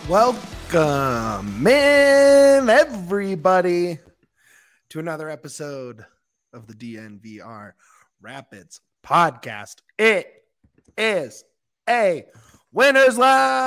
Welcome in, everybody, to another episode of the DNVR Rapids podcast. It is a Winners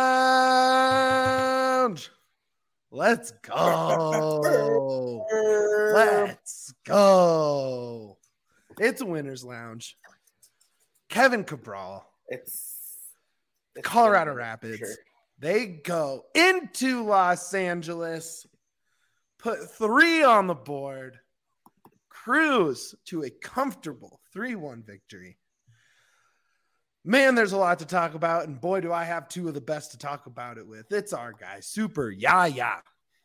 Lounge. Let's go. Let's go. It's a Winners Lounge. Kevin Cabral. It's Colorado Rapids. Sure. They go into Los Angeles, put 3 on the board, cruise to a comfortable 3-1 victory. Man, there's a lot to talk about, and boy, do I have 2 of the best to talk about it with. It's our guy, Super Yaya.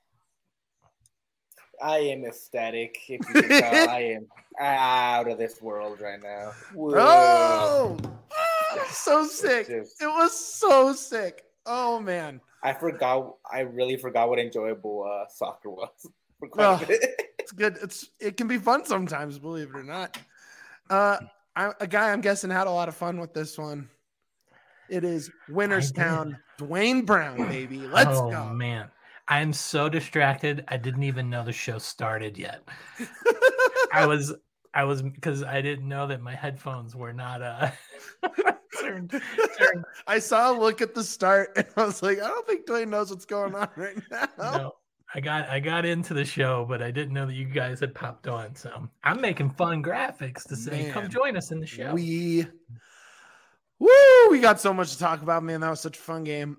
I am ecstatic. If you can tell, I am out of this world right now. Whoa! So sick. It was so sick. Oh, man. I really forgot what enjoyable soccer was. It's good. It can be fun sometimes, believe it or not. A guy I'm guessing had a lot of fun with this one. It is Winnerstown, Dwayne Brown, baby. Let's go. Oh, man. I'm so distracted. I didn't even know the show started yet. I was because I didn't know that my headphones were not turned. I saw a look at the start and I was like, I don't think Dwayne knows what's going on right now. No, I got into the show, but I didn't know that you guys had popped on. So I'm making fun graphics to say, come join us in the show. We got so much to talk about, man. That was such a fun game.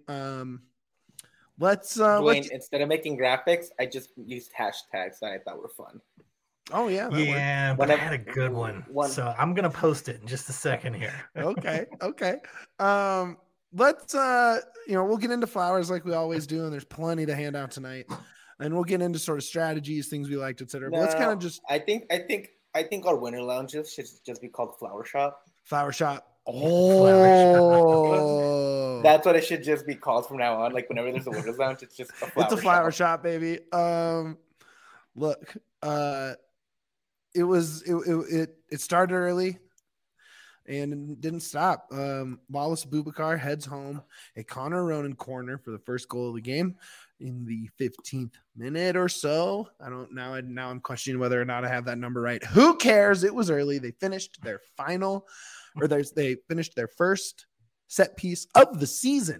Dwayne, instead of making graphics, I just used hashtags that I thought were fun. Oh yeah, but I had a good one. So I'm gonna post it in just a second here. Okay. Let's we'll get into flowers like we always do, and there's plenty to hand out tonight, and we'll get into sort of strategies, things we liked, etc. But let's kind of just. I think our winner lounges should just be called Flower Shop. Flower Shop. Oh, that's what it should just be called from now on. Like whenever there's a winners lounge, it's just a flower shop, baby. Look, it started early and didn't stop. Wallace Boubacar heads home a Connor Ronan corner for the first goal of the game in the 15th minute or so. Now I'm questioning whether or not I have that number right. Who cares? It was early. They finished their they finished their first set piece of the season.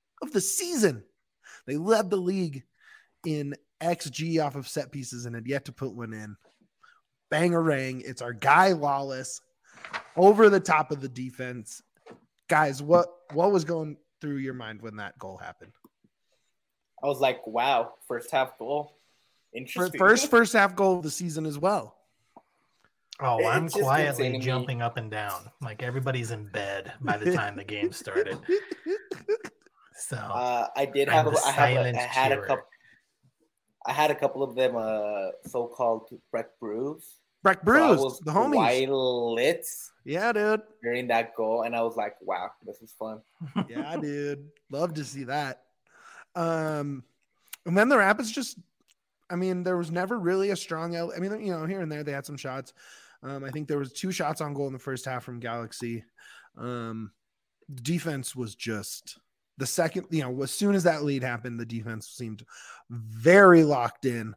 They led the league in XG off of set pieces and had yet to put one in. Bang-a-rang. It's our guy Wallace over the top of the defense. Guys, what was going through your mind when that goal happened? I was like, wow, first half goal. Interesting. First half goal of the season as well. Oh, I'm quietly jumping up and down. Like everybody's in bed by the time the game started. So I had a couple of them so-called Breck Brews. Breck Brews, the homies. Quite lit. Yeah, dude. During that goal, and I was like, wow, this is fun. Yeah, dude. Love to see that. And then the Rapids there was never really a strong here and there they had some shots. I think there was 2 shots on goal in the first half from Galaxy. Defense was just the second, as soon as that lead happened, the defense seemed very locked in.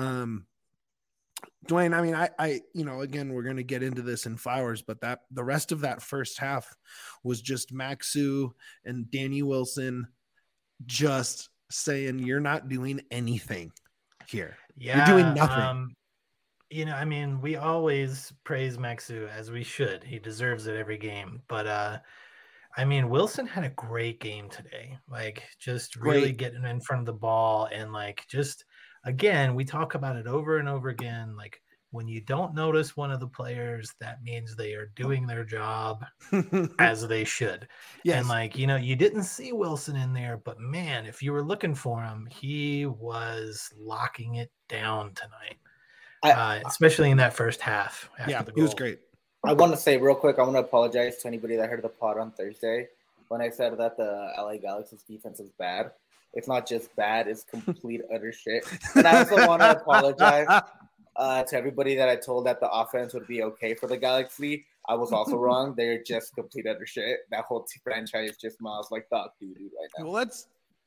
Dwayne, again, we're going to get into this in flowers, but the rest of that first half was just Maxu and Danny Wilson just saying, you're not doing anything here. Yeah, you're doing nothing. We always praise Maxu as we should. He deserves it every game. But Wilson had a great game today. Like just really getting in front of the ball and again, we talk about it over and over again. Like when you don't notice one of the players, that means they are doing their job as they should. Yes. And you didn't see Wilson in there, but man, if you were looking for him, he was locking it down tonight. Especially in that first half. Yeah, he was great. I want to say real quick, I want to apologize to anybody that heard the pod on Thursday when I said that the LA Galaxy's defense is bad. It's not just bad, it's complete utter shit. And I also want to apologize to everybody that I told that the offense would be okay for the Galaxy. I was also wrong. They're just complete utter shit. That whole franchise just smiles like dog doo-doo right now. Well,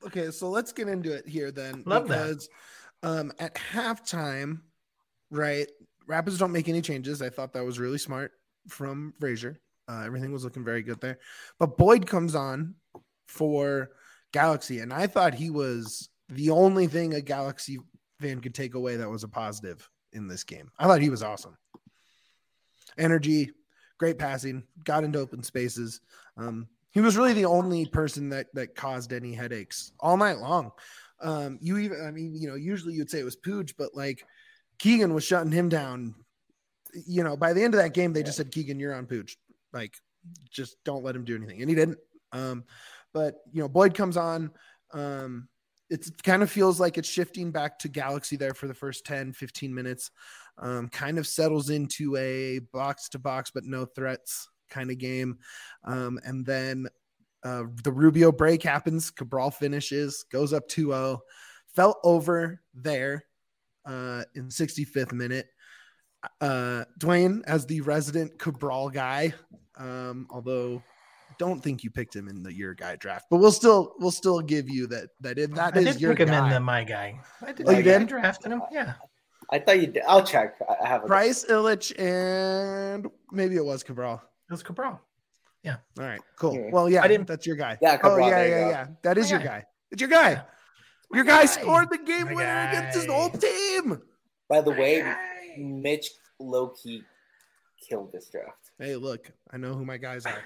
Okay, so let's get into it here then. Love because at halftime, right, Rapids don't make any changes. I thought that was really smart from Frazier. Everything was looking very good there. But Boyd comes on for Galaxy, and I thought he was the only thing a Galaxy fan could take away that was a positive in this game. I thought he was awesome. Energy, great passing, got into open spaces. He was really the only person that caused any headaches all night long. Usually you'd say it was Pooch, but like Keegan was shutting him down. You know, by the end of that game, they just said, Keegan, you're on Pooch. Like, just don't let him do anything. And he didn't. But, you know, Boyd comes on. It kind of feels like it's shifting back to Galaxy there for the first 10, 15 minutes. Kind of settles into a box-to-box but no threats kind of game. And then the Rubio break happens. Cabral finishes, goes up 2-0. Fell over there in 65th minute. Dwayne, as the resident Cabral guy, although don't think you picked him in your guy draft, but we'll still give you that is your guy. I did pick him in my guy. I did. Oh, you did? I drafted him. Yeah. I thought you did. I'll check. I have Bryce, Illich, and maybe it was Cabral. It was Cabral. Yeah. All right. Cool. Well, yeah, that's your guy. Yeah. Cabral, yeah. That is your guy. It's your guy. Yeah. Your guy scored the game winner against his old team. By the way, Mitch low-key killed this draft. Hey, look, I know who my guys are.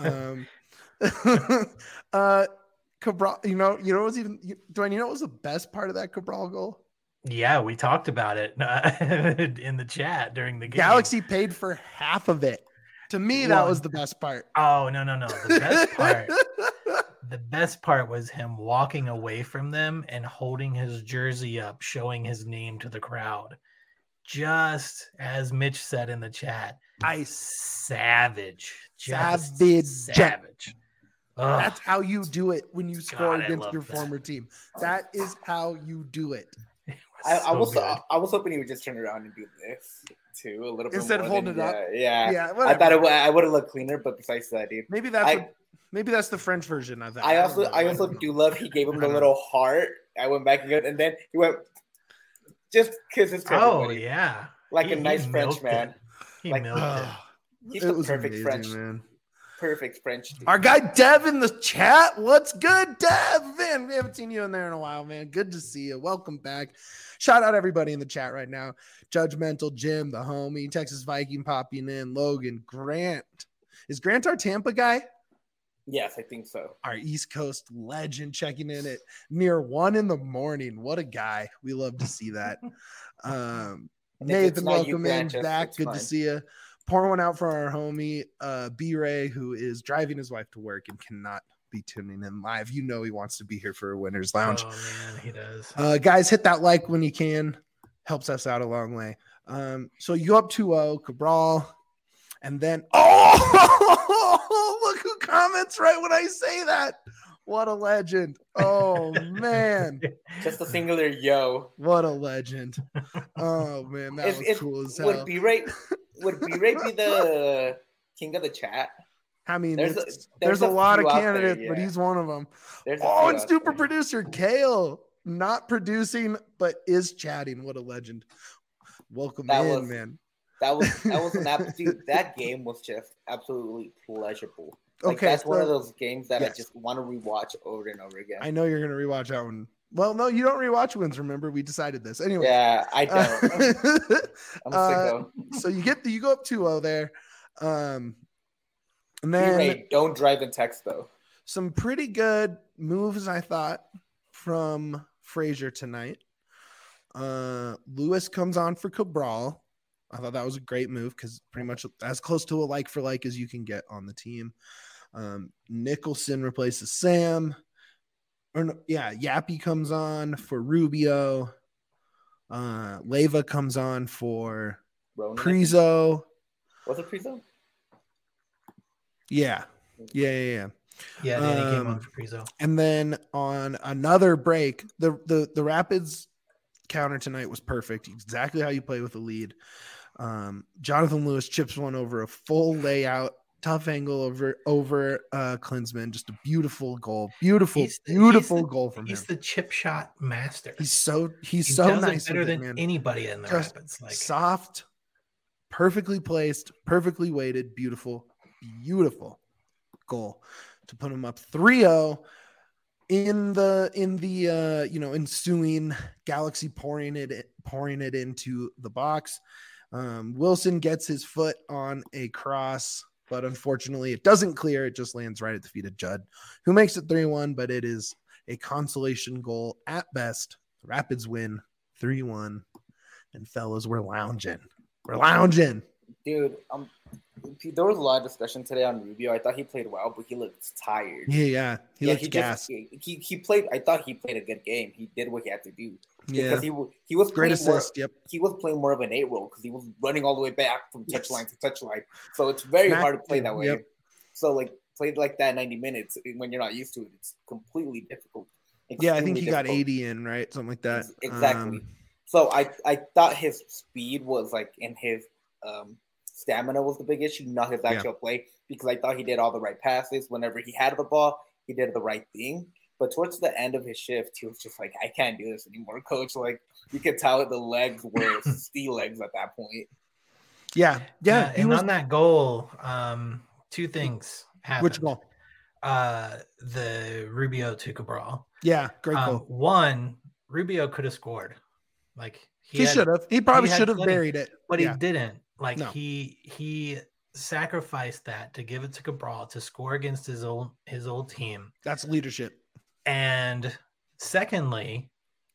Cabral, you know what's even Dwayne, you know what was the best part of that Cabral goal? Yeah, we talked about it in the chat during the game. Galaxy paid for half of it. To me, that was the best part. Oh, no. The best part was him walking away from them and holding his jersey up, showing his name to the crowd. Just as Mitch said in the chat, savage. Savage. That's how you do it when you score against your former team. That is how you do it. I was hoping he would just turn around and do this too, a little bit instead of holding it up. Yeah. I thought I would have looked cleaner, but besides that, dude, maybe that's the French version of that. I also do love he gave him the little heart. I went back and then he went just kisses to everybody. Yeah, like a nice French man. He milked it. He's the perfect French man. Perfect French dude. Our guy Dev in the chat. What's good, Dev? Man, we haven't seen you in there in a while, man. Good to see you. Welcome back. Shout out everybody in the chat right now. Judgmental Jim, the homie, Texas Viking popping in, Logan, Grant. Is Grant our Tampa guy? Yes, I think so. Our East Coast legend checking in at near 1 a.m. What a guy. We love to see that. Nathan, welcome in back. Good to see you. Pour one out for our homie, B-Ray, who is driving his wife to work and cannot be tuning in live. You know he wants to be here for a Winner's Lounge. Oh, man, he does. Guys, hit that like when you can. Helps us out a long way. So you up 2-0, Cabral. And then, look who comments right when I say that. What a legend. Oh, man. Just a singular yo. What a legend. Oh, man, that was cool as hell. Would B-Ray be the king of the chat? I mean, there's a lot of candidates, but he's one of them. And super producer Kale, not producing, but is chatting. What a legend. Welcome man. That was an absolute. That game was just absolutely pleasurable. That's one of those games that I just want to rewatch over and over again. I know you're going to rewatch that one. Well, no, you don't rewatch wins. Remember, we decided this anyway. Yeah, I don't. I'm a sicko. So you go up 2-0 there, and then don't drive and text though. Some pretty good moves, I thought, from Frazier tonight. Lewis comes on for Cabral. I thought that was a great move because pretty much as close to a like for like as you can get on the team. Nicholson replaces Sam. Yappy comes on for Rubio. Leyva comes on for Prizo. Was it Prizo? Yeah. Yeah, Danny came on for Prizo. And then on another break, the Rapids counter tonight was perfect. Exactly how you play with the lead. Jonathan Lewis chips one over a full layout tough angle over Klinsmann. Just a beautiful goal. Beautiful goal from him. He's the chip shot master. He's so does nice it better than man. anybody in the Just Rapids. Like soft, perfectly placed, perfectly weighted, beautiful goal to put him up 3-0 in the ensuing Galaxy pouring it into the box. Wilson gets his foot on a cross, but unfortunately it doesn't clear. It just lands right at the feet of Judd, who makes it 3-1, but it is a consolation goal at best. The Rapids win 3-1, and fellas, we're lounging. Dude, there was a lot of discussion today on Rubio. I thought he played well, but he looked tired. Yeah. He looked gassed. He played. I thought he played a good game. He did what he had to do. Yeah, because he was great assist. Yep, he was playing more of an 8 role because he was running all the way back from touchline to touchline. So it's very hard to play that way. Yep. So like played like that 90 minutes when you're not used to it, it's completely difficult. Yeah, I think he got 80 in, right? Something like that. Exactly. So I thought his speed was like in his stamina was the big issue, not his actual play, because I thought he did all the right passes. Whenever he had the ball, he did the right thing. But towards the end of his shift, he was just like, I can't do this anymore, coach. Like, you could tell the legs were steel legs at that point. Yeah. And on that goal, 2 things happened. Which goal? The Rubio to Cabral. Yeah, great goal. One, Rubio could have scored. Like he should have. He probably should have buried it. But he didn't. Like he sacrificed that to give it to Cabral to score against his old team. That's leadership. And secondly,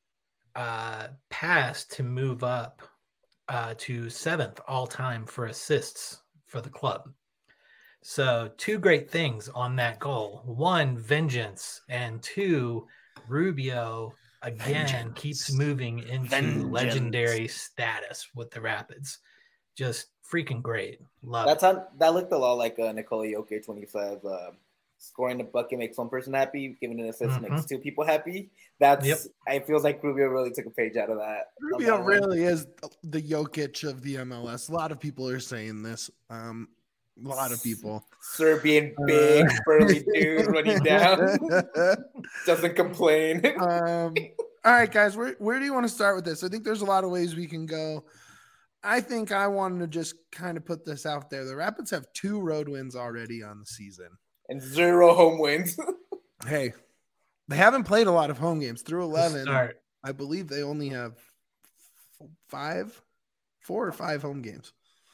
pass to move up to 7th all time for assists for the club. So 2 great things on that goal. 1, vengeance, and 2, Rubio again keeps moving into legendary status with the Rapids. Just freaking great. Love it. That looked a lot like Nikola Jokic when he says scoring the bucket makes one person happy, giving an assist makes 2 people happy. I feel like Rubio really took a page out of that. Rubio really is the Jokic of the MLS. A lot of people are saying this. A lot of people. Serbian big burly dude running down. Doesn't complain. All right, guys, where do you want to start with this? I think there's a lot of ways we can go. I think I wanted to just kind of put this out there. The Rapids have 2 road wins already on the season. And 0 home wins. Hey, they haven't played a lot of home games. Through 11, I believe they only have 4 or 5 home games.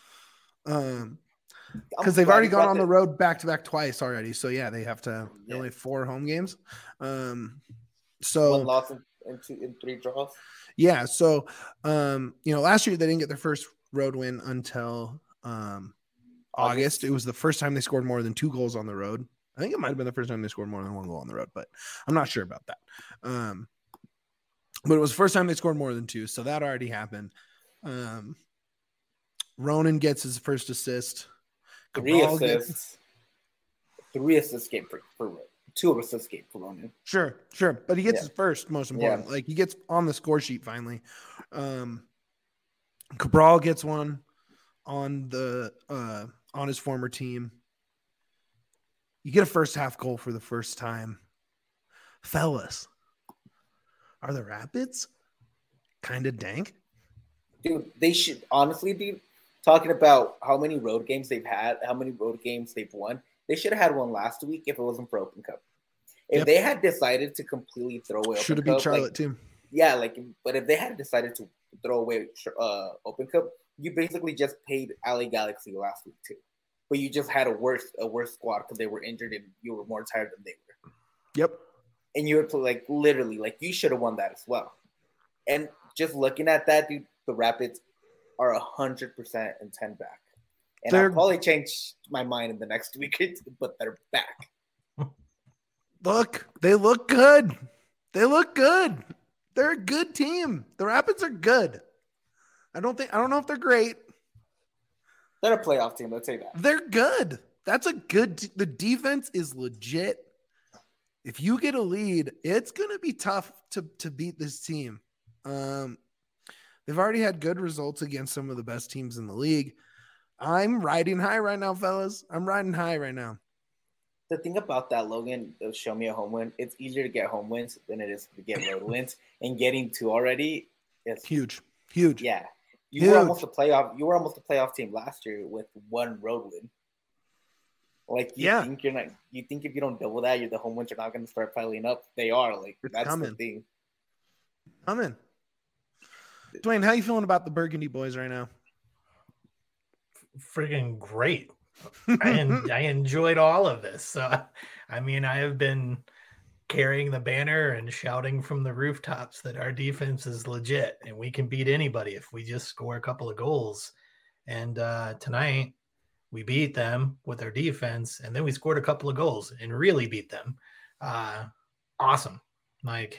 Because they've already gone on the road back-to-back twice already. So, yeah, they have to – only 4 home games. So 1 loss in 3 draws. Yeah, so, last year they didn't get their first road win until August. It was the first time they scored more than 2 goals on the road. I think it might have been the first time they scored more than 1 goal on the road, but I'm not sure about that. But it was the first time they scored more than 2, so that already happened. Ronan gets his first assist. 3 assists. 3 assists game for 2 assists game for Ronan. Sure. But he gets his first, most important. Like, he gets on the score sheet finally. Cabral gets one on the on his former team. You get a first half goal for the first time. Fellas, are the Rapids kind of dank? Dude, they should honestly be talking about how many road games they've had, how many road games they've won. They should have had one last week if it wasn't for Open Cup. If they had decided to completely throw away should have been Charlotte too. Yeah, but if they had decided to throw away Open Cup, you basically just paid LA Galaxy last week too. But you just had a worse squad because they were injured and you were more tired than they were. Yep. And you were literally you should have won that as well. And just looking at that, dude, the Rapids are 100% in 10 back. And I'll probably change my mind in the next week or 2, but they're back. Look, they look good. They're a good team. The Rapids are good. I don't know if they're great. They're a playoff team, let's say that. They're good. That's a good the defense is legit. If you get a lead, it's going to be tough to beat this team. They've already had good results against some of the best teams in the league. I'm riding high right now, fellas. I'm riding high right now. The thing about that, Logan, show me a home win. It's easier to get home wins than it is to get road wins. And getting 2 already is huge. Yeah. You were almost a playoff team last year with 1 road win. Like you think if you don't double that, the home wins are not going to start piling up. They are. Like that's coming. The thing. Coming. Dwayne, how you feeling about the Burgundy boys right now? Freaking great. I enjoyed all of this. So, I mean, I have been carrying the banner and shouting from the rooftops that our defense is legit and we can beat anybody if we just score a couple of goals. And tonight we beat them with our defense, and then we scored a couple of goals and really beat them. Awesome. Like,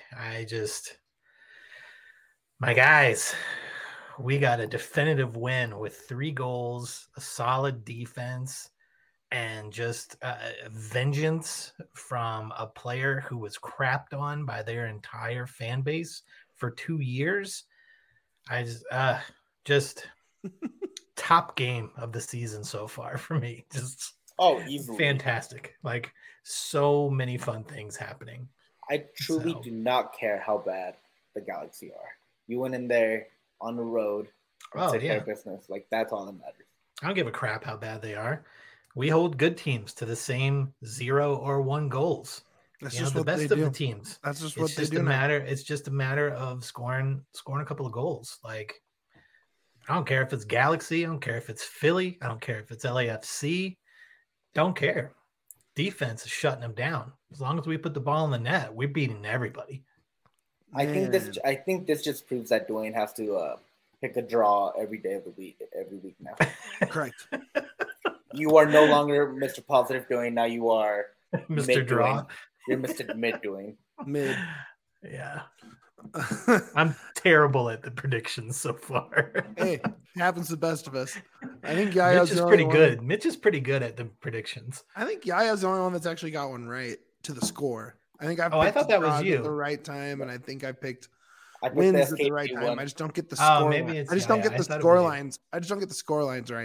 my guys, we got a definitive win with 3 goals, a solid defense, and just vengeance from a player who was crapped on by their entire fan base for 2 years. I just top game of the season so far for me. Just easily fantastic. Like, so many fun things happening. I truly do not care how bad the Galaxy are. You went in there on the road and take care of business. Like, that's all that matters. I don't give a crap how bad they are. We hold good teams to the same 0 or 1 goals. That's just the best of the teams. That's just what they do. It's just a matter of scoring a couple of goals. Like, I don't care if it's Galaxy. I don't care if it's Philly. I don't care if it's LAFC. Don't care. Defense is shutting them down. As long as we put the ball in the net, we're beating everybody. I think this just proves that Dwayne has to pick a draw every day of the week, every week now. Correct. You are no longer Mr. Positive Dwayne. Now you are Mr. Draw. You're Mr. Mid Dwayne. Mid. Yeah. I'm terrible at the predictions so far. Hey, happens to the best of us. I think Yaya's Mitch is pretty good. Mitch is pretty good at the predictions. I think Yaya's the only one that's actually got one right to the score. I think I thought that was you at the right time, and I think I picked wins at the right time. I just don't get the score. Maybe it's I just don't get the score lines. I just don't get the score lines right.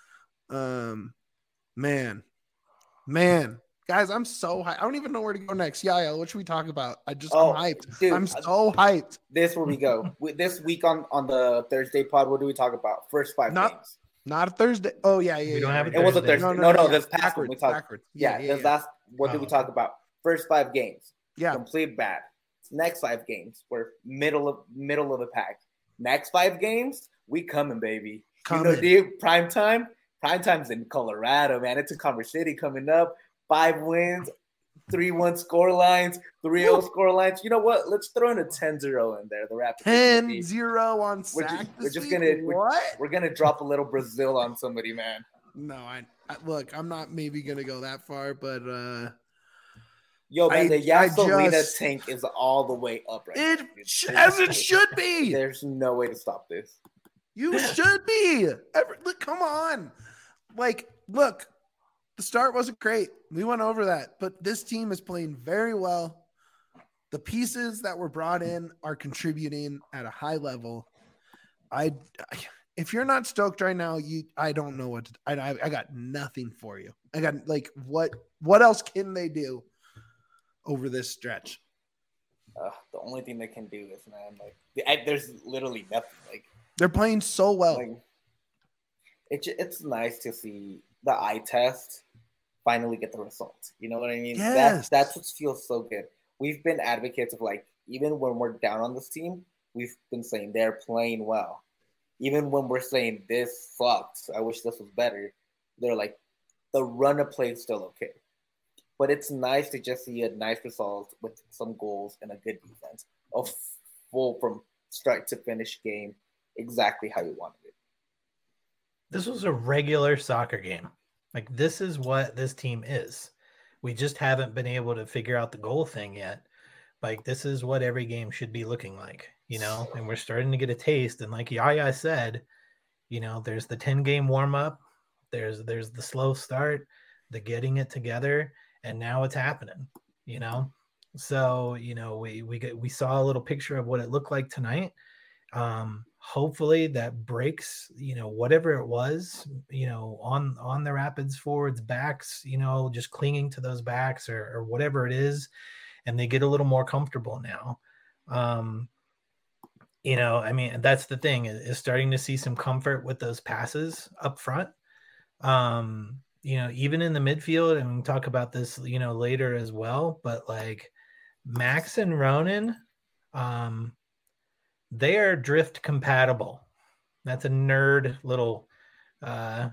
Man, guys, I'm so hyped. I don't even know where to go next. Yaya, what should we talk about? I'm hyped. Dude, I'm so hyped. This where we go. This week on the Thursday pod, what do we talk about? First 5 games. Not a Thursday. Oh yeah. We don't have it. It was a Thursday. No, that's backwards. We talked. Backwards. What did we talk about? First 5 games. Yeah. Complete bad. Next 5 games, we're middle of the pack. Next 5 games, we coming, baby. Dude, prime time. Prime time's in Colorado, man. It's in Commerce City coming up. 5 wins, 3-1 score lines, 3-0 score lines. You know what? Let's throw in a 10-0 in there. The Raptors 10-0 on sack. We're gonna drop a little Brazil on somebody, man. No, I look. I'm not maybe gonna go that far, but yo, man, the Yasolina tank is all the way up right now. As it should be. There's no way to stop this. You should be. Look, come on. Like, look. The start wasn't great. We went over that, but this team is playing very well. The pieces that were brought in are contributing at a high level. If you're not stoked right now, I don't know what to, I got nothing for you. I got like what else can they do over this stretch? The only thing they can do is, man, like there's literally nothing. Like, they're playing so well. Like, it's nice to see the eye test finally get the results. You know what I mean? Yes. That's what feels so good. We've been advocates of, like, even when we're down on this team, we've been saying they're playing well. Even when we're saying this sucks, I wish this was better, they're like, the run of play is still okay. But it's nice to just see a nice result with some goals and a good defense. A full from start to finish game, exactly how you wanted it. This was a regular soccer game. Like, this is what this team is. We just haven't been able to figure out the goal thing yet. Like, this is what every game should be looking like, you know? And we're starting to get a taste. And like Yaya said, you know, there's the 10-game warm-up. There's the slow start, the getting it together, and now it's happening, you know? So, you know, we saw a little picture of what it looked like tonight. hopefully that breaks, whatever it was, on the Rapids forwards backs, just clinging to those backs or whatever it is. And they get a little more comfortable now. I mean, that's the thing is starting to see some comfort with those passes up front. Even in the midfield, and we can talk about this, later as well, but like Max and Ronan, they are drift compatible. That's a nerd little, a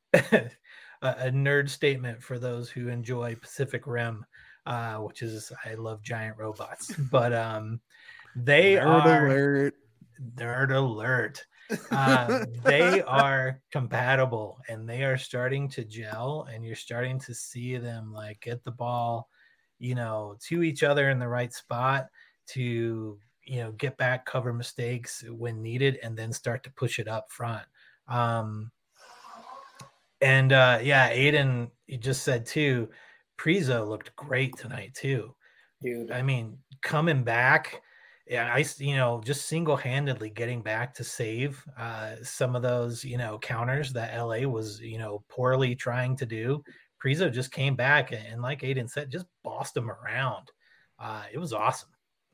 nerd statement for those who enjoy Pacific Rim, which is, I love giant robots, but, they Nerd alert. They are compatible and they are starting to gel, and you're starting to see them like get the ball, to each other in the right spot to, get back, cover mistakes when needed, and then start to push it up front. Aiden, you just said too, Priso looked great tonight too. Dude. I mean, coming back, just single-handedly getting back to save some of those, counters that LA was, poorly trying to do. Priso just came back and like Aiden said, just bossed them around. It was awesome.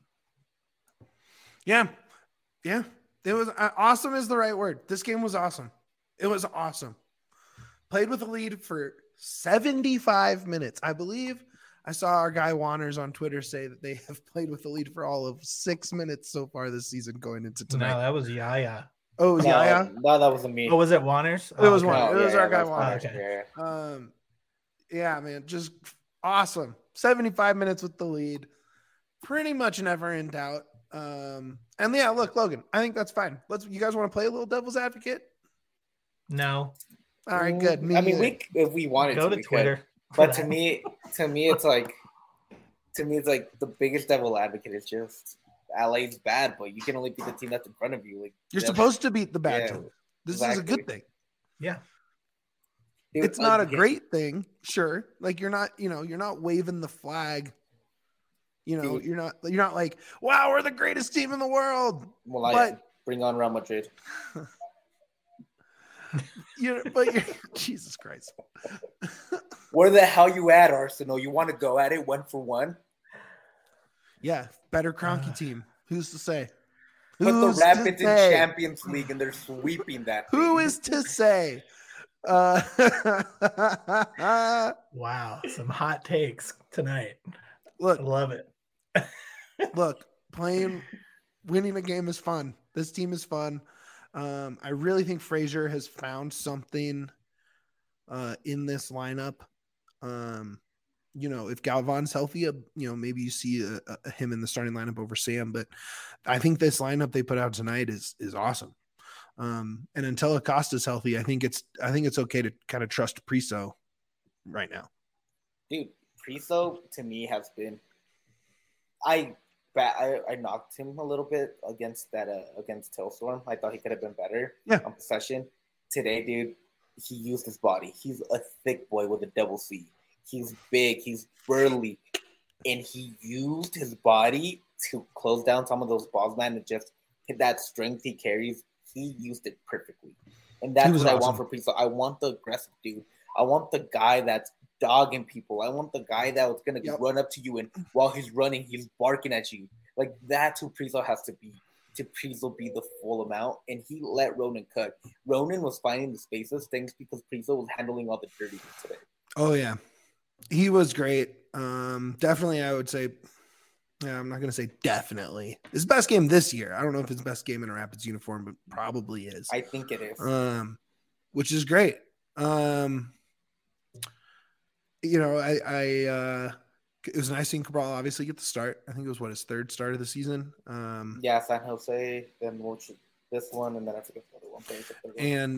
Yeah. It was awesome is the right word. This game was awesome. It was awesome. Played with a lead for 75 minutes. I believe I saw our guy Wanners on Twitter say that they have played with the lead for all of 6 minutes so far this season going into tonight. No, that was Yaya. Oh, it was Yaya? No, that wasn't me. Oh, was it Wanners? It was okay. Wanners. It was our guy Wanners. Okay. Yeah, man, just awesome. 75 minutes with the lead. Pretty much never in doubt. And yeah, look, Logan, I think that's fine. You guys want to play a little devil's advocate? No. All right, good. If we wanted go to Twitter. But to me, it's like the biggest devil advocate is just LA's bad, but you can only beat the team that's in front of you. Like you're supposed to beat the bad team. This is a good thing. Yeah. Dude, it's not a great thing, sure. Like you're not waving the flag. You're not like, wow, we're the greatest team in the world. Well, but bring on Real Madrid. Jesus Christ. Where the hell you at, Arsenal? You want to go at it 1-for-1? Yeah, better Kroenke team. Who's to say? Put the Rapids in Champions League and they're sweeping that. Who is to say? Wow, some hot takes tonight. Look, I love it. Look, winning a game is fun. This team is fun. I really think Fraser has found something in this lineup. If Galvan's healthy, maybe you see him in the starting lineup over Sam. But I think this lineup they put out tonight is awesome. And until Acosta's healthy, I think it's okay to kind of trust Priso right now. Dude, Priso to me has been. I knocked him a little bit against Tailstorm. I thought he could have been better on possession. Today, dude, he used his body. He's a thick boy with a double C. He's big. He's burly. And he used his body to close down some of those balls, man, and just hit that strength he carries. He used it perfectly. And that's what awesome. I want for Priso. I want the aggressive dude. I want the guy that's dogging people. I want the guy that was going to run up to you and while he's running, he's barking at you. Like that's who Priso has to be. To Priso be the full amount. And he let Ronan cook. Ronan was finding the spaces, things because Priso was handling all the dirty today. Oh, yeah. He was great. Definitely, I would say, I'm not going to say definitely. His best game this year. I don't know if it's best game in a Rapids uniform, but probably is. I think it is. Which is great. It was nice seeing Cabral obviously get the start. I think it was his third start of the season. San Jose, then this one, and then I forget the other one. And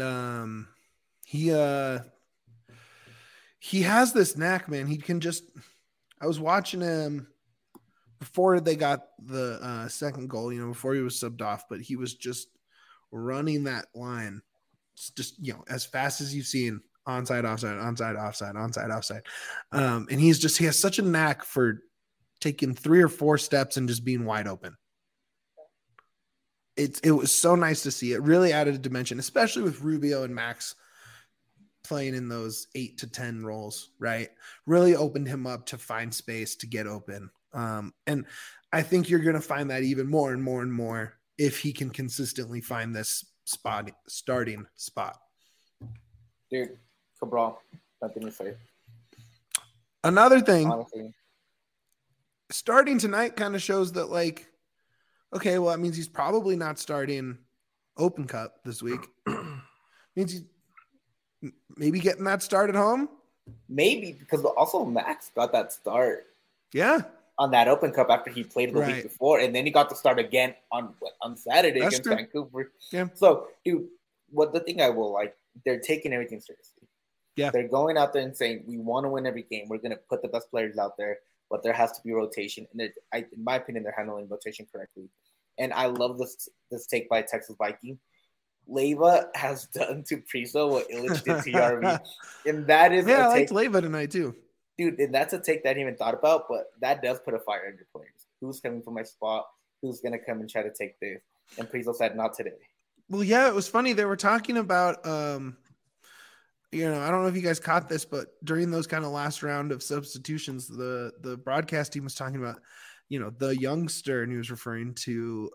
he has this knack, man. He can just. I was watching him before they got the second goal. Before he was subbed off, but he was just running that line, just as fast as you've seen. Onside, offside, onside, offside, onside, offside. And he has such a knack for taking 3 or 4 steps and just being wide open. it was so nice to see. It really added a dimension, especially with Rubio and Max playing in those 8 to 10 roles, right? Really opened him up to find space to get open. And I think you're going to find that even more and more and more if he can consistently find this starting spot. Dude, Cabral, nothing to say. Another thing, Honestly. Starting tonight kind of shows that, like, okay, well, that means he's probably not starting Open Cup this week. Means he's maybe getting that start at home. Maybe, because also Max got that start. Yeah. On that Open Cup after he played the week before, and then he got to start again on Saturday against Vancouver. Yeah. So, dude, the thing I will like, they're taking everything seriously. Yeah. They're going out there and saying, we want to win every game. We're going to put the best players out there, but there has to be rotation. And in my opinion, they're handling rotation correctly. And I love this take by Texas Viking. Leyva has done to Priso what Illich did to Yarvi. And that is I liked Leyva tonight too. Dude, and that's a take that I hadn't even thought about, but that does put a fire under players. Who's coming for my spot? Who's going to come and try to take this? And Priso said, not today. Well, yeah, it was funny. They were talking about, I don't know if you guys caught this, but during those kind of last round of substitutions, the broadcast team was talking about, the youngster, and he was referring to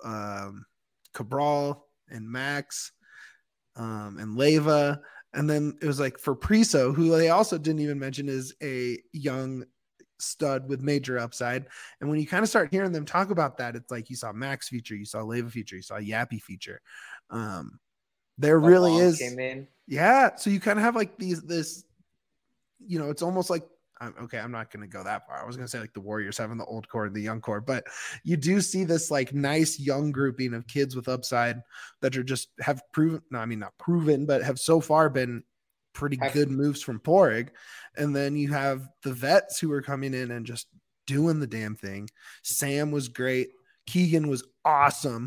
Cabral and Max and Leyva. And then it was like for Priso, who they also didn't even mention is a young stud with major upside. And when you kind of start hearing them talk about that, it's like you saw Max feature, you saw Leyva feature, you saw Yappy feature. There really is. Came in. Yeah. So you kind of have like this, it's almost like, okay, I'm not going to go that far. I was going to say like the Warriors having the old core and the young core, but you do see this like nice young grouping of kids with upside that are just have proven, not proven, but have so far been pretty good moves from Porig. And then you have the vets who are coming in and just doing the damn thing. Sam was great. Keegan was awesome.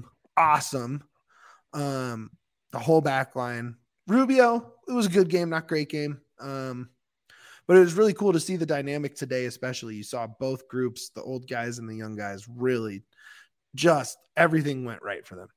The whole back line. Rubio, it was a good game, not great game. But it was really cool to see the dynamic today, especially. You saw both groups, the old guys and the young guys, really just everything went right for them.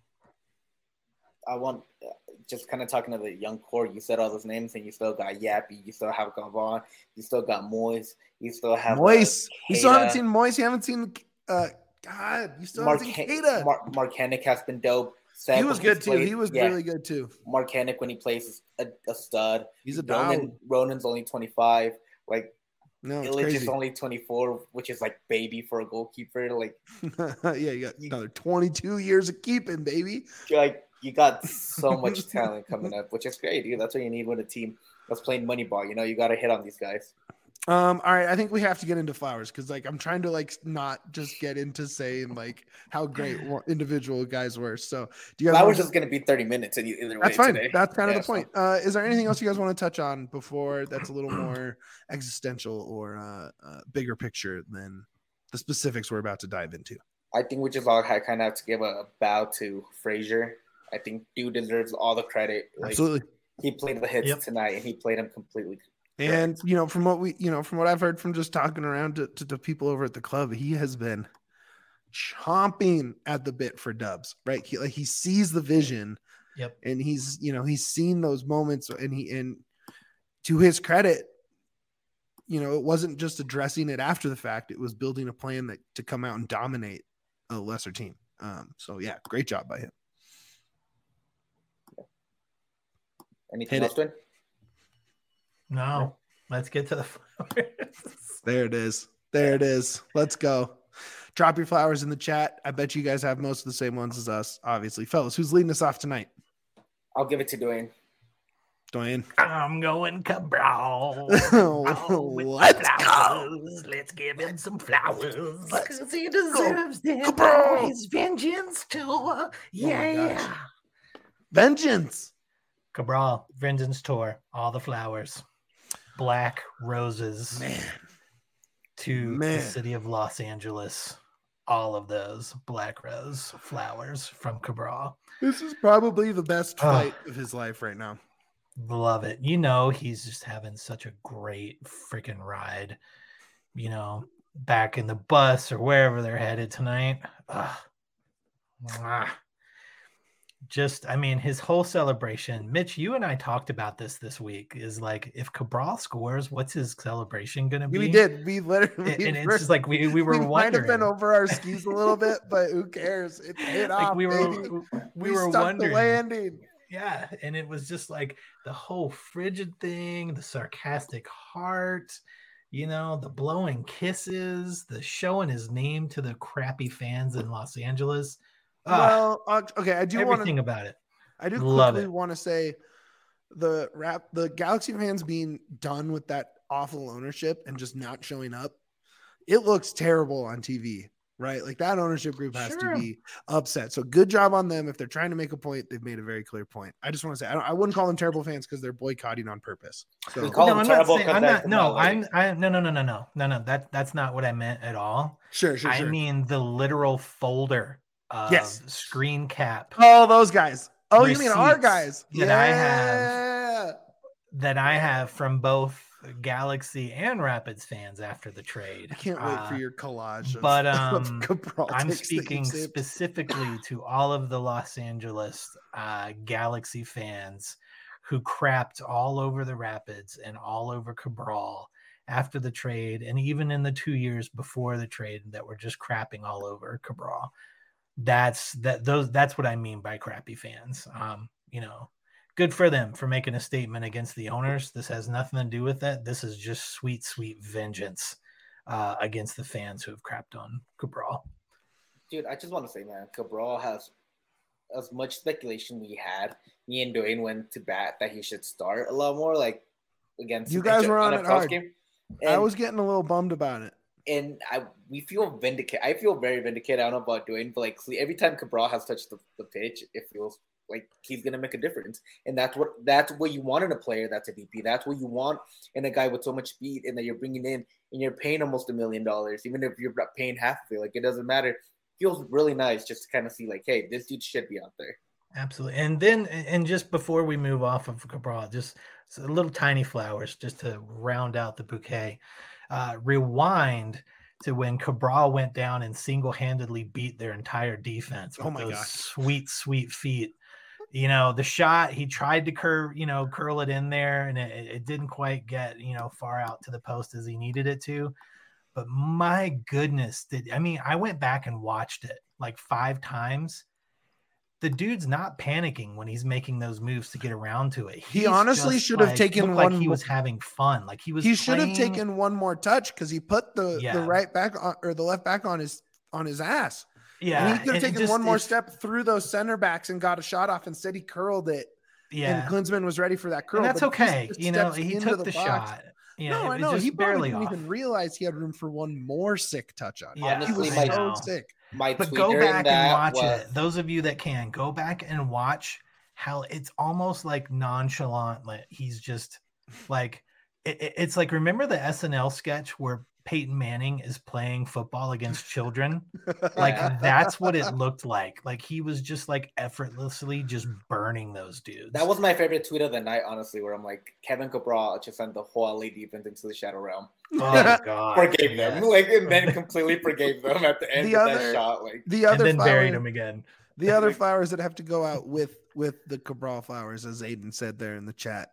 I want just kind of talking to the young core. You said all those names, and you still got Yappy. You still have Gavon. You still got Moise. You still have Moise. You still haven't seen Moise. You haven't seen God. You still haven't seen Keita. Mark Hennick has been dope. Seb, he was good too. He was really good too. Mark Hennick when he plays is a stud. He's a dog. Ronan's only 25. Like, no, Illich is only 24, which is like baby for a goalkeeper. Like, yeah, you got another 22 years of keeping, baby. Like, you got so much talent coming up, which is great, dude. That's what you need with a team that's playing money ball. You got to hit on these guys. All right, I think we have to get into Flowers because like I'm trying to like not just get into saying like how great individual guys were. So do you guys Flowers is going to be 30 minutes either way. That's fine. Today. That's kind of the point. Is there anything else you guys want to touch on before that's a little more existential or bigger picture than the specifics we're about to dive into? I think we just all kind of have to give a bow to Frazier. I think dude deserves all the credit. Like, absolutely. He played the hits tonight and he played them completely. And, from what I've heard from just talking around to people over at the club, he has been chomping at the bit for dubs, right? He sees the vision. Yep. And he's seen those moments and to his credit, it wasn't just addressing it after the fact. It was building a plan to come out and dominate a lesser team. So yeah, great job by him. Anything else, Twin? No, let's get to the flowers. There it is. Let's go. Drop your flowers in the chat. I bet you guys have most of the same ones as us, obviously. Fellas, who's leading us off tonight? I'll give it to Dwayne. I'm going Cabral. Let's go. Let's give him some flowers. Because he deserves it. Cabral. His vengeance too. Yeah. Vengeance. Cabral, Vengeance Tour, all the flowers. Black roses. To the city of Los Angeles. All of those black rose flowers from Cabral. This is probably the best fight of his life right now. Love it. He's just having such a great freaking ride. Back in the bus or wherever they're headed tonight. just, I mean, his whole celebration. Mitch, you and I talked about this week. Is like, if Cabral scores, what's his celebration going to be? We did. We literally, and it's just like we were we might have wondering. been over our skis a little bit, but who cares? It paid Like off, we baby. were stuck wondering. the landing. Yeah, and it was just like the whole frigid thing, the sarcastic heart, you know, the blowing kisses, the showing his name to the crappy fans in Los Angeles. Well, okay, I do everything about it. I do Love quickly it. want to say the Galaxy fans being done with that awful ownership and just not showing up. It looks terrible on TV, right? Like that ownership group has to be upset. So good job on them. If they're trying to make a point, they've made a very clear point. I just want to say I wouldn't call them terrible fans because they're boycotting on purpose. So we call them terrible. No. That's not what I meant at all. Sure. I mean the literal folder. Screen cap. Oh, those guys. Oh, you mean our guys that I have from both Galaxy and Rapids fans after the trade. I can't wait for your collage. But I'm speaking specifically to all of the Los Angeles Galaxy fans who crapped all over the Rapids and all over Cabral after the trade, and even in the 2 years before the trade that were just crapping all over Cabral. That's what I mean by crappy fans. You know, good for them for making a statement against the owners. This has nothing to do with that. This is just sweet vengeance against the fans who have crapped on Cabral. Dude, I just want to say, man, Cabral has as much speculation we had. Me and Dwayne went to bat that he should start a lot more, like against you guys were on it hard. Game. I was getting a little bummed about it. And we feel vindicated. I feel very vindicated. I don't know about Dwayne, but like every time Cabral has touched the pitch, it feels like he's gonna make a difference. And that's what you want in a player that's a DP. That's what you want in a guy with so much speed and that you're bringing in and you're paying almost $1 million, even if you're paying half of it. Like it doesn't matter. It feels really nice just to kind of see like, hey, this dude should be out there. Absolutely. And then, and just before we move off of Cabral, just a little tiny flowers just to round out the bouquet. Rewind to when Cabral went down and single-handedly beat their entire defense with those sweet feet. You know, the shot, he tried to curl it in there, and it didn't quite get, far out to the post as he needed it to. But my goodness, I went back and watched it like 5 times. The dude's not panicking when he's making those moves to get around to it. He honestly should have taken one. Like he was having fun. Like he should have taken one more touch because he put the right back on, or the left back on his ass. Yeah, and he could have taken one more step through those center backs and got a shot off. Instead, he curled it. Yeah, and Klinsmann was ready for that curl. And that's okay. He took the shot. Yeah, no, I know. He barely didn't even realize he had room for one more sick touch on. Yeah, honestly, he was so sick. But go back and watch it. Those of you that can, go back and watch how it's almost like nonchalant. Like he's just like, it's like, remember the SNL sketch where Peyton Manning is playing football against children? Like that's what it looked like. Like he was just like effortlessly just burning those dudes. That was my favorite tweet of the night, honestly, where I'm like, Kevin Cabral just sent the whole LA defense into the shadow realm. Oh God! Forgave them, and then completely forgave them at the end of that shot. Like and then buried him again. The other flowers that have to go out with the Cabral flowers, as Aiden said there in the chat.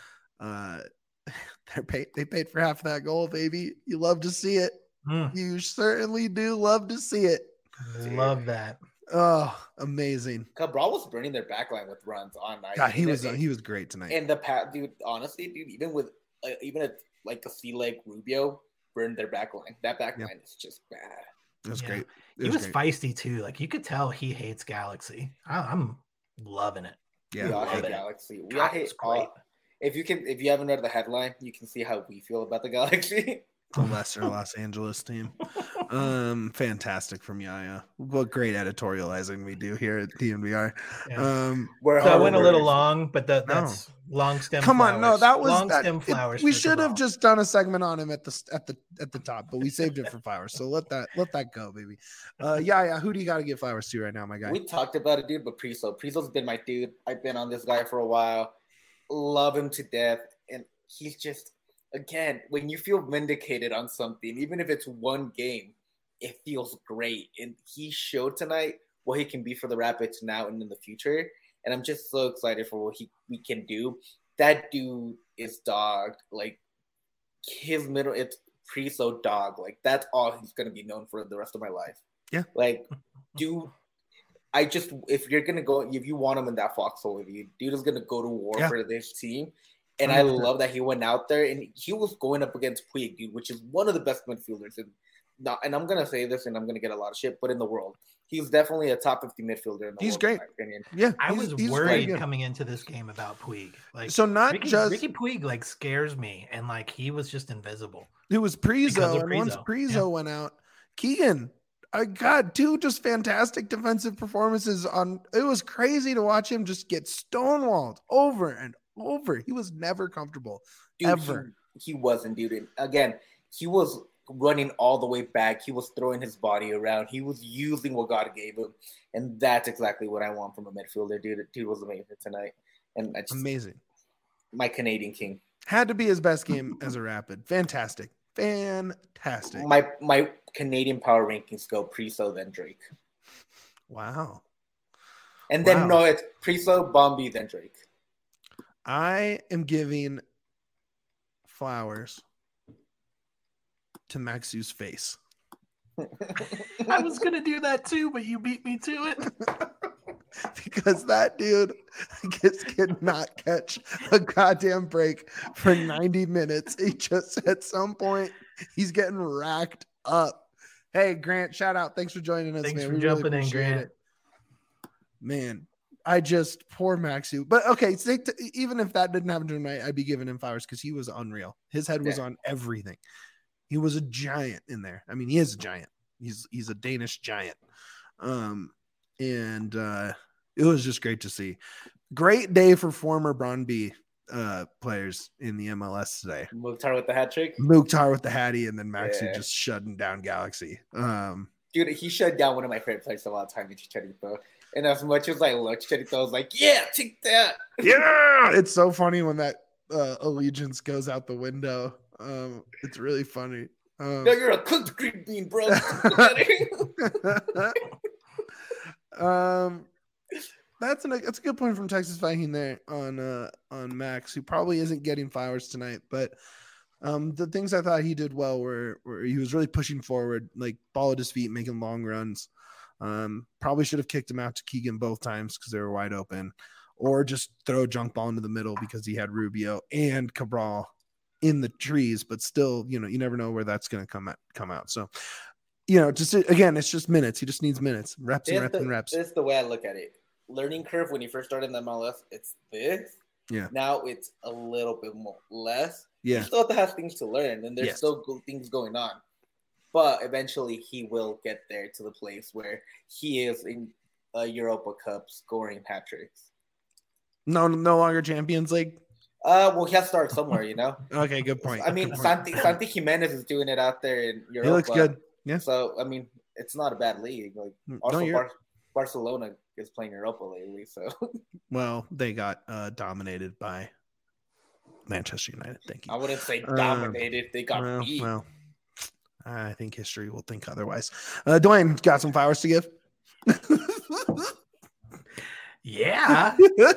They paid for half of that goal, baby. You love to see it. You certainly do love to see it. Love that. Oh, amazing. Cabral was burning their backline with runs on night. God, he was great tonight. And dude, honestly, even with a C-leg Rubio burned their backline. That backline is just bad. It was great. He was feisty too. Like you could tell he hates Galaxy. I'm loving it. Yeah, we all hate Galaxy. We all hate all. If you haven't read the headline, you can see how we feel about the Galaxy. The lesser Los Angeles team. Fantastic from Yaya. What great editorializing we do here at DNVR. So I went a little long, but that's long stem. Come flowers. on, no, that was long stem flowers. We should have just done a segment on him at the top, but we saved it for flowers. So let that go, baby. Yaya, who do you got to give flowers to right now, my guy? We talked about it, dude, but Priso's been my dude. I've been on this guy for a while. Love him to death, and he's just, again, when you feel vindicated on something, even if it's one game, it feels great. And he showed tonight what he can be for the Rapids now and in the future. and I'm just so excited for what we can do. That dude is dog. Like his middle, it's Priso dog. Like that's all he's gonna be known for the rest of my life. Yeah. Like, dude, if you want him in that foxhole with you, dude is gonna go to war for this team. And 100%. I love that he went out there and he was going up against Puig, dude, which is one of the best midfielders. And I'm gonna say this, and I'm gonna get a lot of shit, but in the world, he's definitely a top 50 midfielder in the he's world. Great. In my opinion. Yeah, I was worried coming into this game about Puig. Like, so not Ricky Puig like scares me, and like he was just invisible. It was Priso, and once Priso went out, Keegan. God, two just fantastic defensive performances it was crazy to watch him just get stonewalled over and over. He was never comfortable. Dude, ever. He wasn't, dude. And again, he was running all the way back. He was throwing his body around. He was using what God gave him. And that's exactly what I want from a midfielder, dude. Dude was amazing tonight. And amazing. My Canadian king. Had to be his best game as a Rapid. Fantastic. My Canadian power rankings go Priso, then Drake. Wow. And then no, it's Priso, Bombi, then Drake. I am giving flowers to Maxu's face. I was gonna do that too, but you beat me to it. Because that dude just cannot catch a goddamn break for 90 minutes. He just at some point he's getting racked up. Hey, Grant, shout out. Thanks for joining us, Thanks man. for jumping in, Grant. Man, poor Maxu. But okay, even if that didn't happen tonight, I'd be giving him flowers because he was unreal. His head was on everything. He was a giant in there. I mean, he is a giant. He's a Danish giant. And it was just great to see. Great day for former Brøndby players in the MLS today. Mukhtar with the hat trick. Mukhtar with the hattie, and then Maxi just shutting down Galaxy. Dude, he shut down one of my favorite players of all time, Chicharito. And as much as I looked, Chicharito was like, yeah, take that. Yeah, it's so funny when that allegiance goes out the window. It's really funny. No, you're a cooked green bean, bro. That's a good point from Texas Viking there on Max, who probably isn't getting flowers tonight, but the things I thought he did well were he was really pushing forward, like ball at his feet, making long runs. Probably should have kicked him out to Keegan both times because they were wide open, or just throw a junk ball into the middle because he had Rubio and Cabral in the trees, but still, you never know where that's going to come out. So, just again, it's just minutes. He just needs minutes, reps. This is the way I look at it. Learning curve when you first started in the MLS, it's this. Yeah. Now it's a little bit more less. Yeah. You still have things to learn, and there's still things going on. But eventually, he will get there to the place where he is in a Europa Cup scoring hat tricks. No longer Champions League. Well, he has to start somewhere, Okay, good point. I mean, Santi Jimenez is doing it out there in Europa. He looks good. Yeah. So I mean, it's not a bad league. Like also, Barcelona is playing Europa lately. So well, they got dominated by Manchester United. Thank you. I wouldn't say dominated. They got beat. Well, I think history will think otherwise. Dwayne, got some flowers to give? Yeah.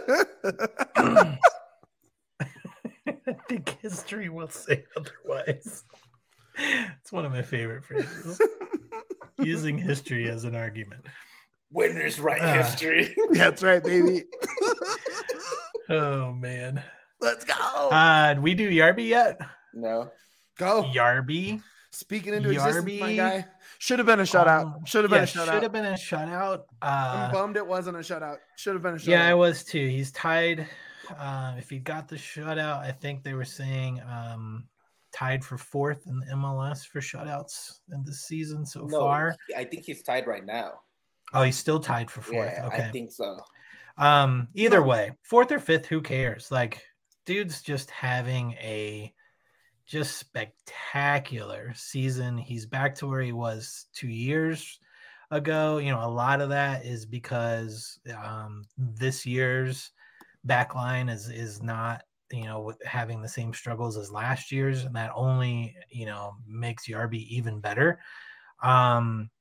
I think history will say otherwise. It's one of my favorite phrases. Using history as an argument. Winners write history. That's right, baby. Oh, man. Let's go. Did we do Yarby yet? No. Go. Yarby. Speaking into existence, my guy. Should have been a shutout. Should have been a shutout. Should have been a shutout. I'm bummed it wasn't a shutout. Should have been a shutout. Yeah, I was too. He's tied. If he got the shutout, I think they were saying tied for fourth in the MLS for shutouts in this season so far. I think he's tied right now. Oh, he's still tied for fourth. Yeah, okay. I think so. Either way, fourth or fifth, who cares? Like, dude's just having a just spectacular season. He's back to where he was 2 years ago. A lot of that is because this year's back line is not, having the same struggles as last year's, and that only, makes Yarby even better.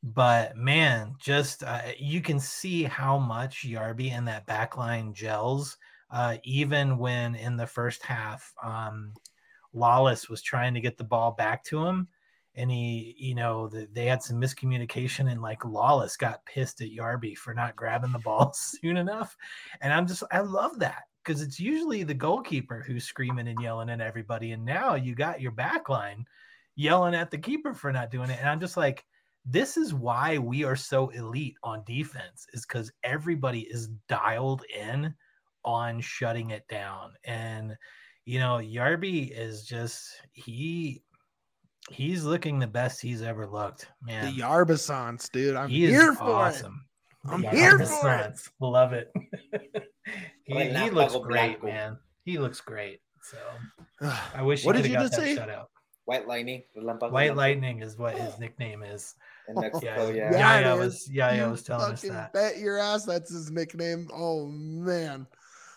But man, just you can see how much Yarby and that backline gels. Even when in the first half, Lawless was trying to get the ball back to him, and they had some miscommunication, and like Lawless got pissed at Yarby for not grabbing the ball soon enough. And I love that, because it's usually the goalkeeper who's screaming and yelling at everybody, and now you got your backline yelling at the keeper for not doing it. And I'm just like, this is why we are so elite on defense, is because everybody is dialed in on shutting it down. And Yarby is just he's looking the best he's ever looked, man. The Yarbisons, dude. I'm here for awesome. It. I'm here for it. Love it. he looks great, man. He looks great. So I wish he could have got that shutout. White Lightning. White Lightning is what his nickname is. In Mexico, yeah. Yaya was telling us that. Bet your ass that's his nickname. Oh man.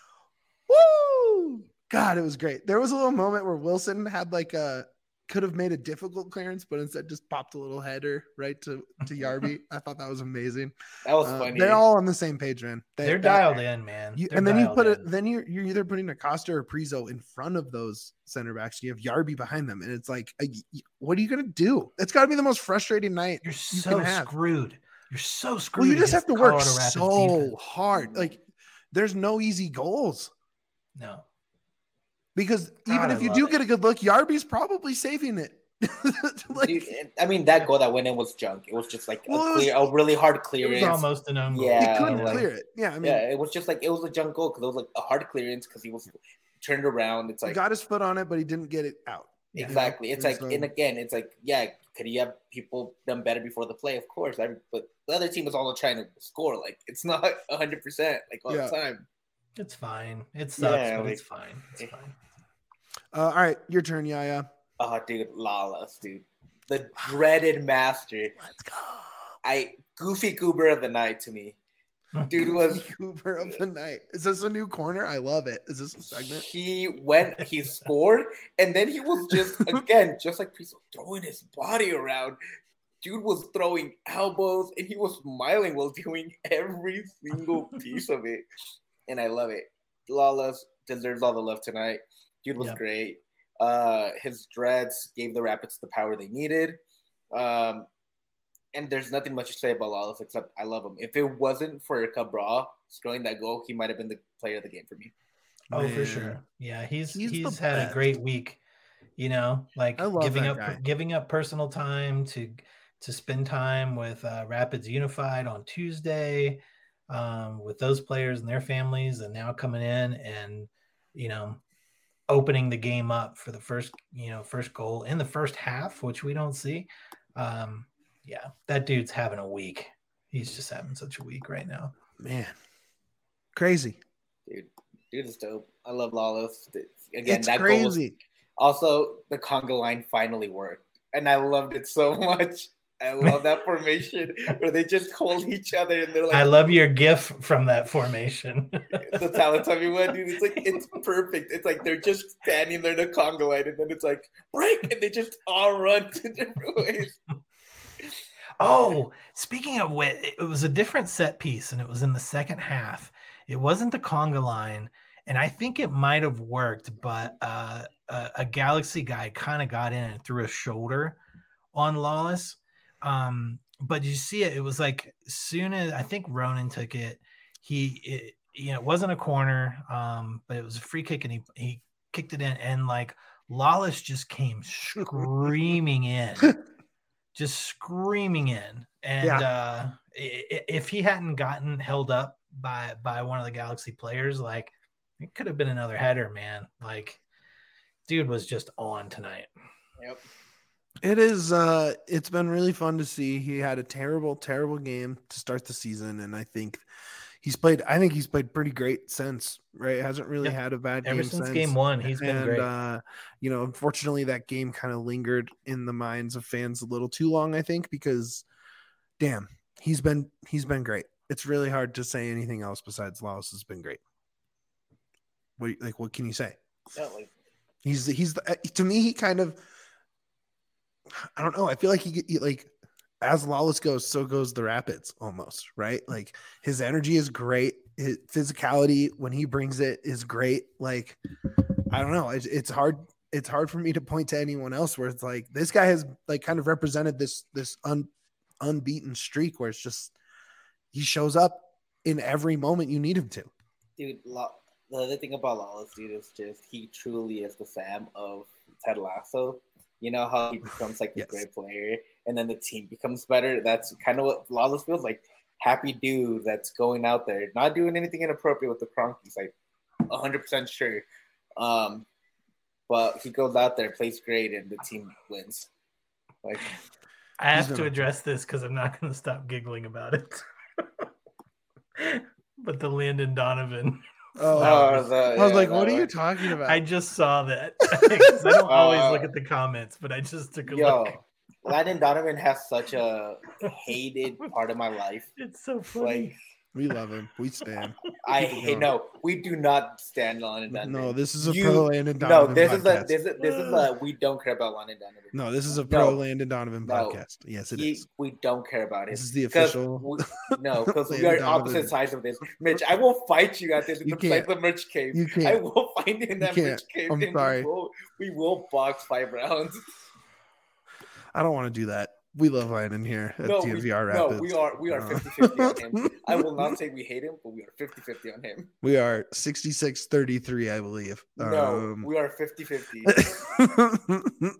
Woo! God, it was great. There was a little moment where Wilson had could have made a difficult clearance, but instead just popped a little header right to Yarby. I thought that was amazing. That was funny. They're all on the same page, man. They're dialed in, man. You're either putting Acosta or Priso in front of those center backs. You have Yarby behind them, and it's like, what are you gonna do? It's got to be the most frustrating night. You're so screwed. You're so screwed. Well, you just have to work so hard. Like, there's no easy goals. No. Because even if you do get a good look, Yarby's probably saving it. Dude, I mean, that goal that went in was junk. It was just like a really hard clearance. It was almost an own goal. Yeah, he couldn't clear it. Yeah, I mean, it was just like, it was a junk goal because it was like a hard clearance because he was turned around. It's like, he got his foot on it, but he didn't get it out. Exactly. It's like, and again, it's like, yeah, could he have people done better before the play? Of course. But the other team is also trying to score. Like, it's not 100% like all the time. It's fine. It sucks, but it's fine. It's fine. All right, your turn, Yaya. Oh, dude, Lawless, dude. The dreaded master. Let's go. Goofy Goober of the night to me. Dude was Goober of the night. Is this a new corner? I love it. Is this a segment? He scored, and then he was just, again, just like Priso, throwing his body around. Dude was throwing elbows, and he was smiling while doing every single piece of it. And I love it. Lawless deserves all the love tonight. Dude was great. His dreads gave the Rapids the power they needed. And there's nothing much to say about Lawless except I love him. If it wasn't for Cabral scoring that goal, he might have been the player of the game for me. Oh, man. For sure. Yeah, he's had a great week. Like giving up personal time to spend time with Rapids Unified on Tuesday, with those players and their families, and now coming in and opening the game up for the first goal in the first half, which we don't see. Yeah, that dude's having a week. He's just having such a week right now. Man, crazy. Dude is dope. I love Lawless. Again, that crazy. Also, the conga line finally worked, and I loved it so much. I love that formation where they just hold each other and they're like, I love your gif from that formation. The Teletubby one, dude. It's like, it's perfect. It's like they're just standing there in the conga line, and then it's like break, and they just all run to different ways. Oh, speaking of which, it was a different set piece, and it was in the second half. It wasn't the conga line, and I think it might have worked, but a Galaxy guy kind of got in and threw a shoulder on Lawless. But you see it was like soon as I think Ronan took it, it wasn't a corner, but it was a free kick, and he kicked it in, and like Lawless just came screaming in. Just screaming in. And if he hadn't gotten held up by one of the Galaxy players, like it could have been another header, man. Like dude was just on tonight. Yep. It is it's been really fun to see. He had a terrible game to start the season, and I think he's played pretty great since, right? Hasn't really had a bad game ever since game one. He's been great. Unfortunately that game kind of lingered in the minds of fans a little too long, I think, because damn, he's been great. It's really hard to say anything else besides Lawless has been great. What can you say? Yeah, like he's to me, he kind of, I don't know. I feel like he as Lawless goes, so goes the Rapids almost, right? Like his energy is great. His physicality when he brings it is great. Like, I don't know. It's hard. It's hard for me to point to anyone else where it's like, this guy has like kind of represented this unbeaten streak where it's just, he shows up in every moment you need him to. Dude, the other thing about Lawless, dude, is just he truly is the Sam of Ted Lasso. You know how he becomes like a great player and then the team becomes better? That's kind of what Lawless feels like. Happy dude that's going out there, not doing anything inappropriate with the Cronkies, like 100% sure. But he goes out there, plays great, and the team wins. Like, I have to address this because I'm not going to stop giggling about it. But the Landon Donovan. I was like, what are you talking about? I just saw that. I don't always look at the comments, but I just took a look. Landon Donovan has such a hated part of my life. It's so funny. Like, we love him. We stand. We do not stand Landon Donovan. No, this is a pro Landon Donovan podcast. This is a we don't care about Landon Donovan. No, this is a pro Landon Donovan podcast. Yes, it is. We don't care about it. This is the official. Because we are opposite sides of this. Mitch, I will fight you at this in the merch cave. You can't. I will find you in that merch cave. I'm sorry. We will box 5 rounds. I don't want to do that. We love Landon here at DNVR Rapids. No, we are 50-50 on him. I will not say we hate him, but we are 50-50 on him. We are 66-33, I believe. No, we are 50-50.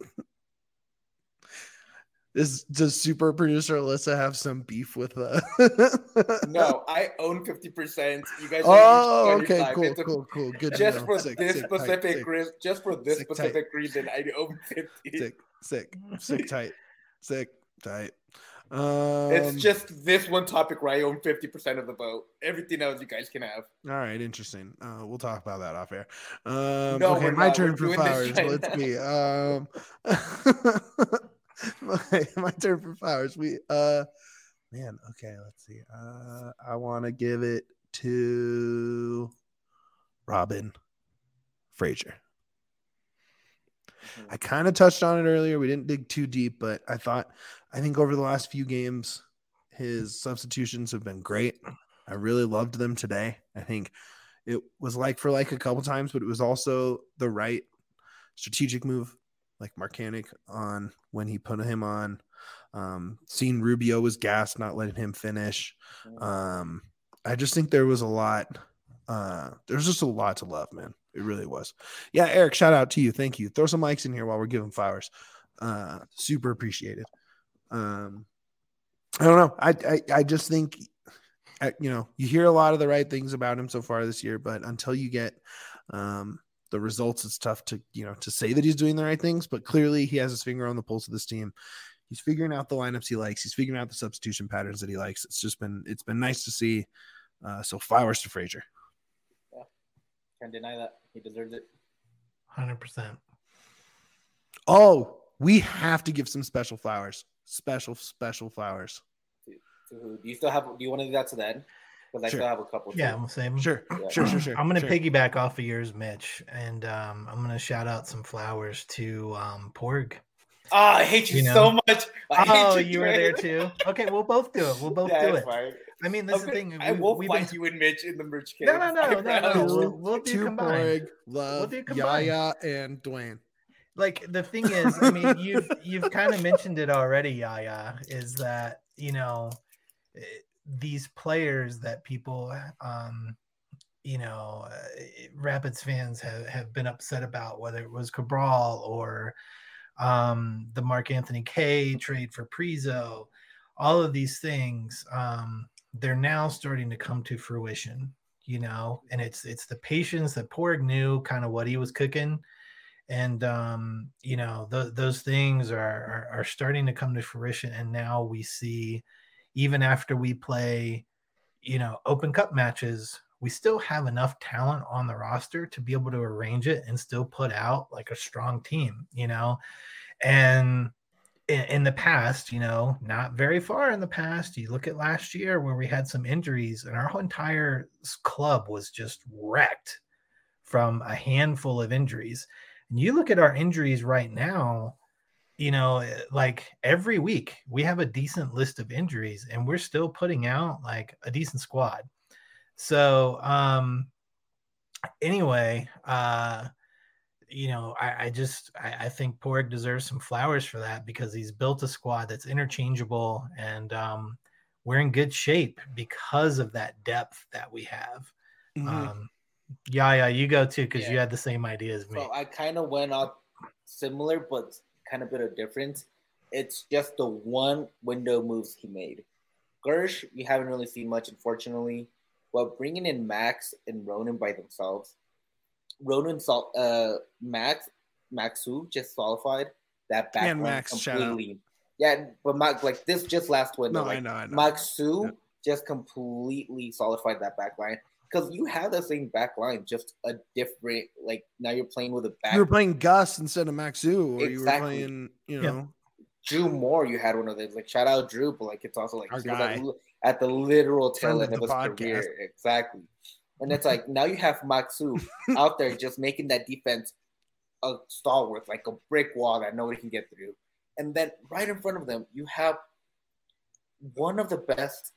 Does super producer Alyssa have some beef with No, I own 50%. You guys okay, cool. Good. Just for this specific reason, I own 50. Sick, tight. It's just this one topic where I own 50% of the vote. Everything else you guys can have. All right, interesting. We'll talk about that off air. Okay, my turn for flowers. Let's see. My turn for flowers. Let's see. I want to give it to Robin Fraser. I kind of touched on it earlier. We didn't dig too deep, but I think over the last few games, his substitutions have been great. I really loved them today. I think it was like for like a couple times, but it was also the right strategic move, like Marcanic on when he put him on. Seeing Rubio was gassed, not letting him finish. I just think there was a lot. There's just a lot to love, man. It really was. Yeah, Eric, shout out to you. Thank you. Throw some mics in here while we're giving flowers. Super appreciated. I don't know. I just think, you hear a lot of the right things about him so far this year, but until you get the results, it's tough to say that he's doing the right things. But clearly, he has his finger on the pulse of this team. He's figuring out the lineups he likes. He's figuring out the substitution patterns that he likes. It's been nice to see. So flowers to Fraser. Yeah, can't deny that. He deserves it. 100%. Oh, we have to give some special flowers. Special flowers. To who? Do you want to do that to then? Because I still have a couple. Yeah, I'm saying. Sure. I'm going to piggyback off of yours, Mitch, and I'm going to shout out some flowers to Porg. I hate you so much. You were there too. Okay, we'll both do it. We'll both do it. Fine. I mean, this is the thing. I will fight you and Mitch in the merch cave. No. We'll do combined. Porg, Love, Yaya, and Dwayne. Like the thing is, I mean, you've kind of mentioned it already, Yaya, is that these players that people, Rapids fans have been upset about, whether it was Cabral or the Mark Anthony Kaye trade for Prizo, all of these things, they're now starting to come to fruition, and it's the patience that Porg knew kind of what he was cooking. And, those things are starting to come to fruition. And now we see, even after we play, Open Cup matches, we still have enough talent on the roster to be able to arrange it and still put out like a strong team, and in the past, not very far in the past, you look at last year where we had some injuries and our whole entire club was just wrecked from a handful of injuries. And you look at our injuries right now, like every week we have a decent list of injuries and we're still putting out like a decent squad. So anyway, I think Porg deserves some flowers for that because he's built a squad that's interchangeable, and we're in good shape because of that depth that we have. Mm-hmm. Yeah, you go too because you had the same idea as me. So I kind of went out similar, but kind of bit of difference. It's just the one window moves he made. Gersh, we haven't really seen much, unfortunately. But bringing in Max and Ronan by themselves, Maxu just solidified that back and Max completely. Yeah, but Max, like this just last window. No, like, I know. Maxu just completely solidified that back line. Because you have the same back line, just a different, like, now you're playing with a back. You were playing Gus instead of Maxu, or Exactly. you were playing, Drew Moore, you had one of those. Like, shout out Drew, but, like, it's also, like, our guy. at the literal tail Friend end of his podcast. career. Exactly. And it's like, now you have Maxu out there just making that defense a stalwart, like a brick wall that nobody can get through. And then right in front of them, you have one of the best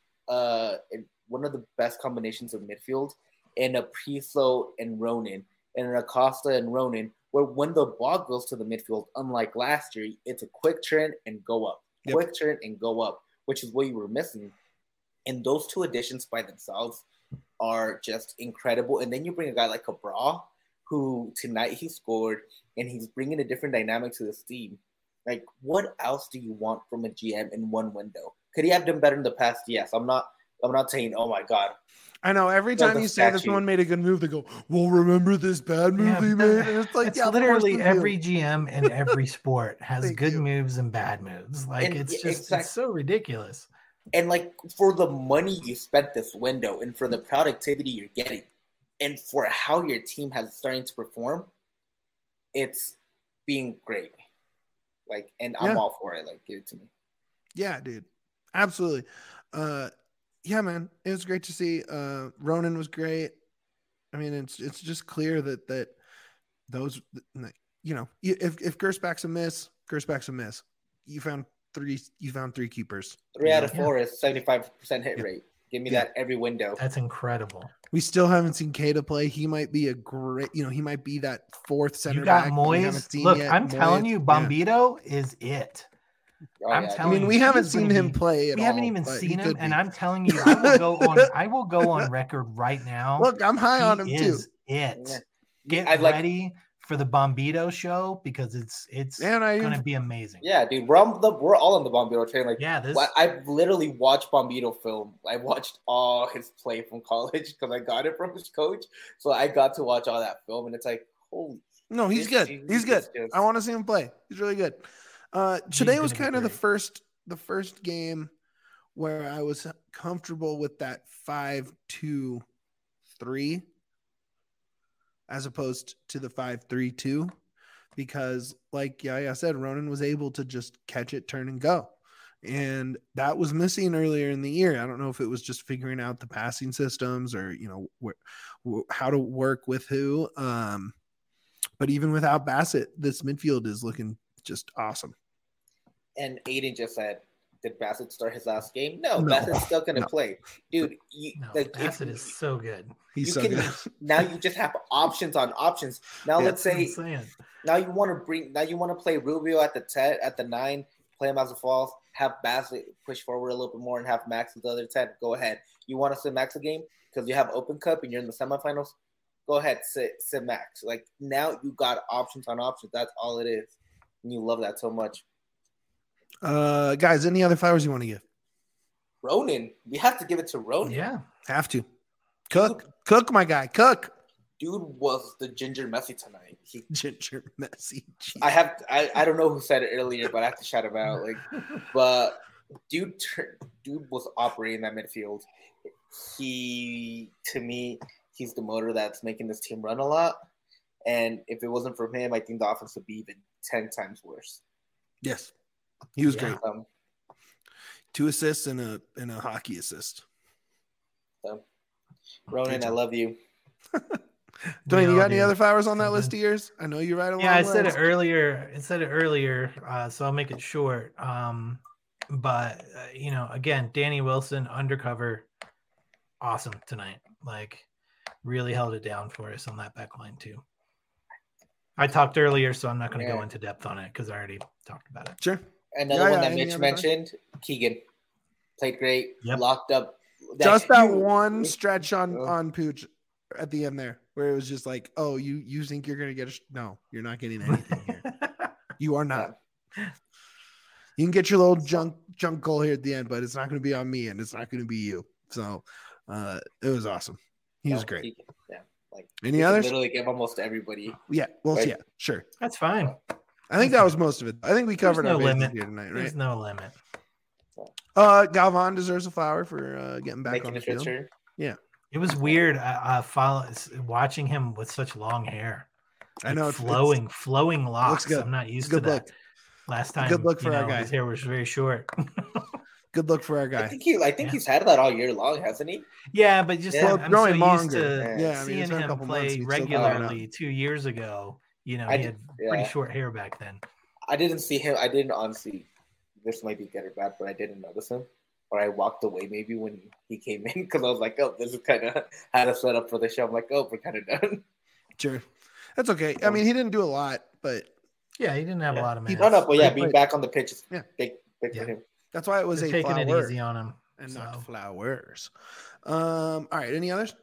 combinations of midfield in a Priso and Ronan, and an Acosta and Ronan, where when the ball goes to the midfield, unlike last year, it's a quick turn and go up. Quick turn and go up, which is what you were missing. And those two additions by themselves are just incredible. And then you bring a guy like Cabral, who tonight he scored, and he's bringing a different dynamic to this team. Like, what else do you want from a GM in one window? Could he have done better in the past? Yes. I'm not saying, oh my God. I know every time you say that someone made a good move, they go, well, remember this bad move he made? And it's like, literally every GM in every sport has good moves and bad moves. Like, it's so ridiculous. And like, for the money you spent this window and for the productivity you're getting and for how your team has starting to perform, it's being great. Like, and I'm all for it. Like, give it to me. Yeah, dude. Absolutely. Yeah, man, it was great to see. Ronan was great. I mean, it's just clear that those, if Gersbach's a miss, Gersbach's a miss. You found three keepers. 3 out of 4 is 75% hit rate. Give me that every window. That's incredible. We still haven't seen Keita play. He might be a great, he might be that fourth center. You got back Moyes. Look, I'm telling you, Bombito is it. We haven't seen him play at all. We haven't even seen him, and I'm telling you, I will go on record right now. Look, I'm high on him too. Get ready for the Bombito show because it's going to be amazing. Yeah, dude, we're all on the Bombito train. Like, I've literally watched Bombito film. I watched all his play from college because I got it from his coach. So I got to watch all that film, and it's like, holy. No, he's good. He's good. I want to see him play. He's really good. Today was kind of the first game where I was comfortable with that 5-2-3 as opposed to the 5-3-2 because, like I said, Ronan was able to just catch it, turn and go, and that was missing earlier in the year. I don't know if it was just figuring out the passing systems or how to work with who. But even without Bassett, this midfield is looking just awesome. And Aiden just said, did Bassett start his last game? No. Bassett's still going to play. Dude, Bassett is so good. He's so good. Now you just have options on options. Now let's say now you want to play Rubio at the 9, play him as a false, have Bassett push forward a little bit more and have Max at the other 10. Go ahead. You want to sit Max a game because you have Open Cup and you're in the semifinals? Go ahead, sit Max. Like, now you got options on options. That's all it is. And you love that so much. Guys, any other flowers you want to give? Ronan. We have to give it to Ronan. Yeah. Have to. Cook, my guy. Cook. Dude was the Ginger Messi tonight. Ginger Messi. Geez. I don't know who said it earlier, but I have to shout him out. Like, but dude was operating that midfield. To me, he's the motor that's making this team run a lot. And if it wasn't for him, I think the offense would be even 10 times worse. Yes. He was great. 2 assists and a hockey assist. Ronan, I love you. Dwayne, you all got any do. other flowers on that So list good. of yours? I know you write a long Yeah, I said it list. earlier. So I'll make it short. But again, Danny Wilson, undercover, awesome tonight. Like, really held it down for us on that back line too. I talked earlier, so I'm not going to go into depth on it because I already talked about it. Sure. Another one that Mitch mentioned, Keegan. Played great, locked up. Just that one stretch on Pooch at the end there, where it was just like, oh, you think you're going to get no, you're not getting anything here. You are not. You can get your little junk goal here at the end, but it's not going to be on me, and it's not going to be you. So it was awesome. He was great. Yeah. Like, any others? Literally give almost everybody. Yeah. Well, yeah, sure. That's fine. I think that was most of it. I think we covered our bases here tonight, right? There's no limit. Galvan deserves a flower for getting back on the field. Yeah. It was weird watching him with such long hair. I know, flowing locks. Looks good. I'm not used to that. Last time, good look for our guy. His hair was very short. Good look for our guy. I think he's had that all year long, hasn't he? Yeah, but just I'm so used to seeing him play regularly 2 years ago. He had pretty short hair back then. I didn't see him. I didn't honestly. This might be good or bad, but I didn't notice him. Or I walked away maybe when he came in because I was like, oh, this is kind of how to set up for the show. I'm like, oh, we're kind of done. Sure. That's okay. I mean, he didn't do a lot, but. Yeah, he didn't have a lot of minutes. But being back on the pitch is big for him. That's why it was taking it easy on him. And not flowers. All right. Any others?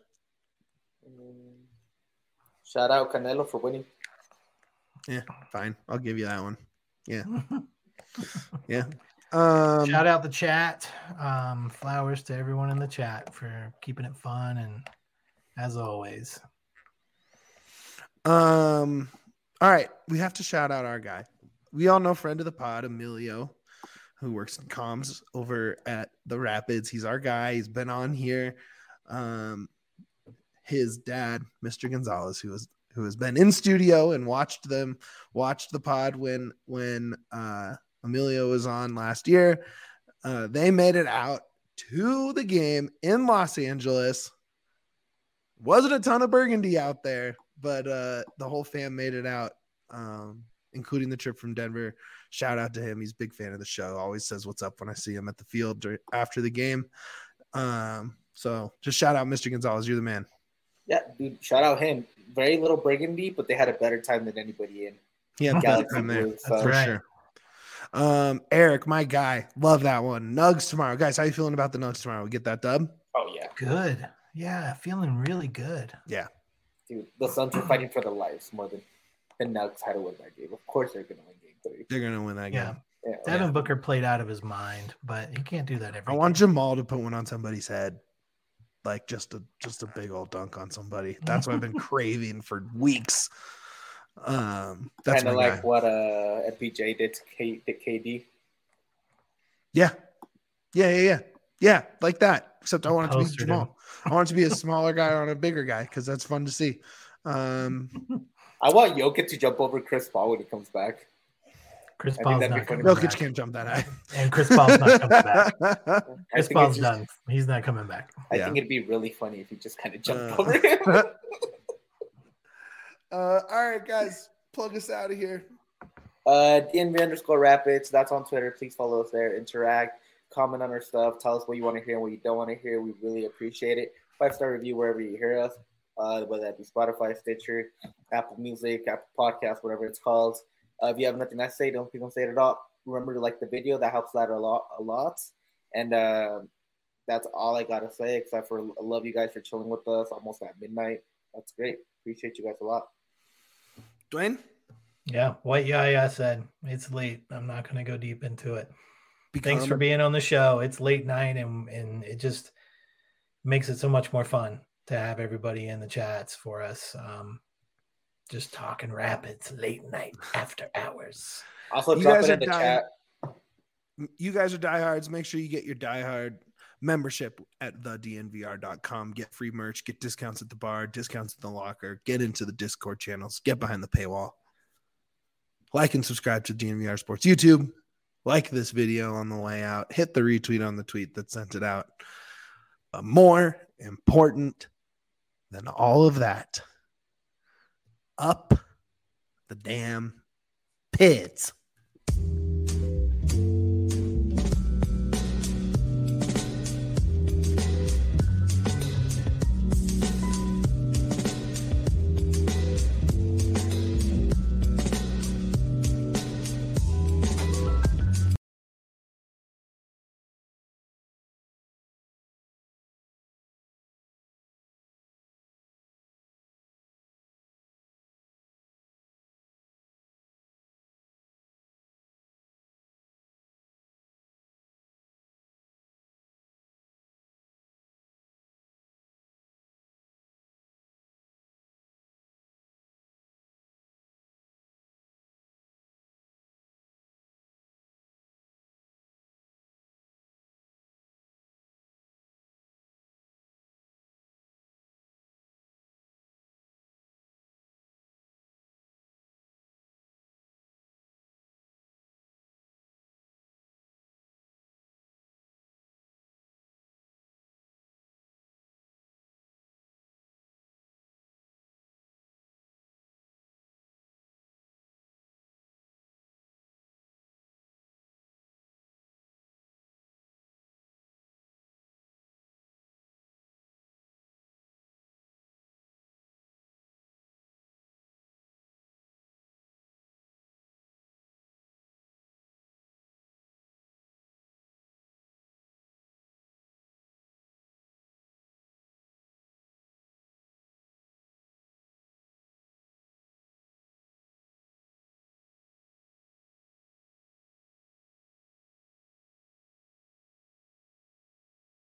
Shout out Canelo for winning. Yeah, fine. I'll give you that one. Yeah. Yeah. Shout out the chat. Flowers to everyone in the chat for keeping it fun and as always. All right. We have to shout out our guy. We all know friend of the pod, Emilio, who works in comms over at the Rapids. He's our guy. He's been on here. His dad, Mr. Gonzalez, who has been in studio and watched the pod when Emilio was on last year. They made it out to the game in Los Angeles. Wasn't a ton of burgundy out there, but the whole fam made it out, including the trip from Denver. Shout out to him. He's a big fan of the show. Always says what's up when I see him at the field after the game. So just shout out Mr. Gonzalez. You're the man. Yeah, dude, shout out him. Very little burgundy, but they had a better time than anybody in. Yeah, Galaxy there. For sure. Eric, my guy. Love that one. Nugs tomorrow. Guys, how you feeling about the Nugs tomorrow? We get that dub? Oh, yeah. Good. Yeah, feeling really good. Yeah. Dude, the Suns are fighting for their lives more than the Nugs had to win that game. Of course they're going to win game 3. They're going to win that game. Yeah. Devin Booker played out of his mind, but he can't do that every I want Jamal to put one on somebody's head. Like just a big old dunk on somebody. That's what I've been craving for weeks. That's kind of like what FPJ did to KD. Yeah, like that. Except I want it to be Jamal. I want it to be a smaller guy on a bigger guy because that's fun to see. I want Jokic to jump over Chris Paul when he comes back. Chris Paul's not coming back. Jokic back. Can't jump that high. And Chris Paul's not coming back. Chris Paul's done. He's not coming back. I think it'd be really funny if he just kind of jumped over him. All right, guys. Plug us out of here. DNV_Rapids. That's on Twitter. Please follow us there. Interact. Comment on our stuff. Tell us what you want to hear and what you don't want to hear. We really appreciate it. 5-star review wherever you hear us. Whether that be Spotify, Stitcher, Apple Music, Apple Podcasts, whatever it's called. If you have nothing to say, don't say it at all. Remember to like the video. That helps out a lot. And that's all I got to say, except for I love you guys for chilling with us almost at midnight. That's great. Appreciate you guys a lot. Dwayne? Yeah, what Yaya said. It's late. I'm not going to go deep into it. Thanks for being on the show. It's late night, and it just makes it so much more fun to have everybody in the chats for us. Just talking Rapids late night after hours. Also, drop it in the chat. You guys are diehards. Make sure you get your diehard membership at thednvr.com. Get free merch, get discounts at the bar, discounts at the locker, get into the Discord channels, get behind the paywall. Like and subscribe to DNVR Sports YouTube. Like this video on the way out. Hit the retweet on the tweet that sent it out. But more important than all of that up the damn pits.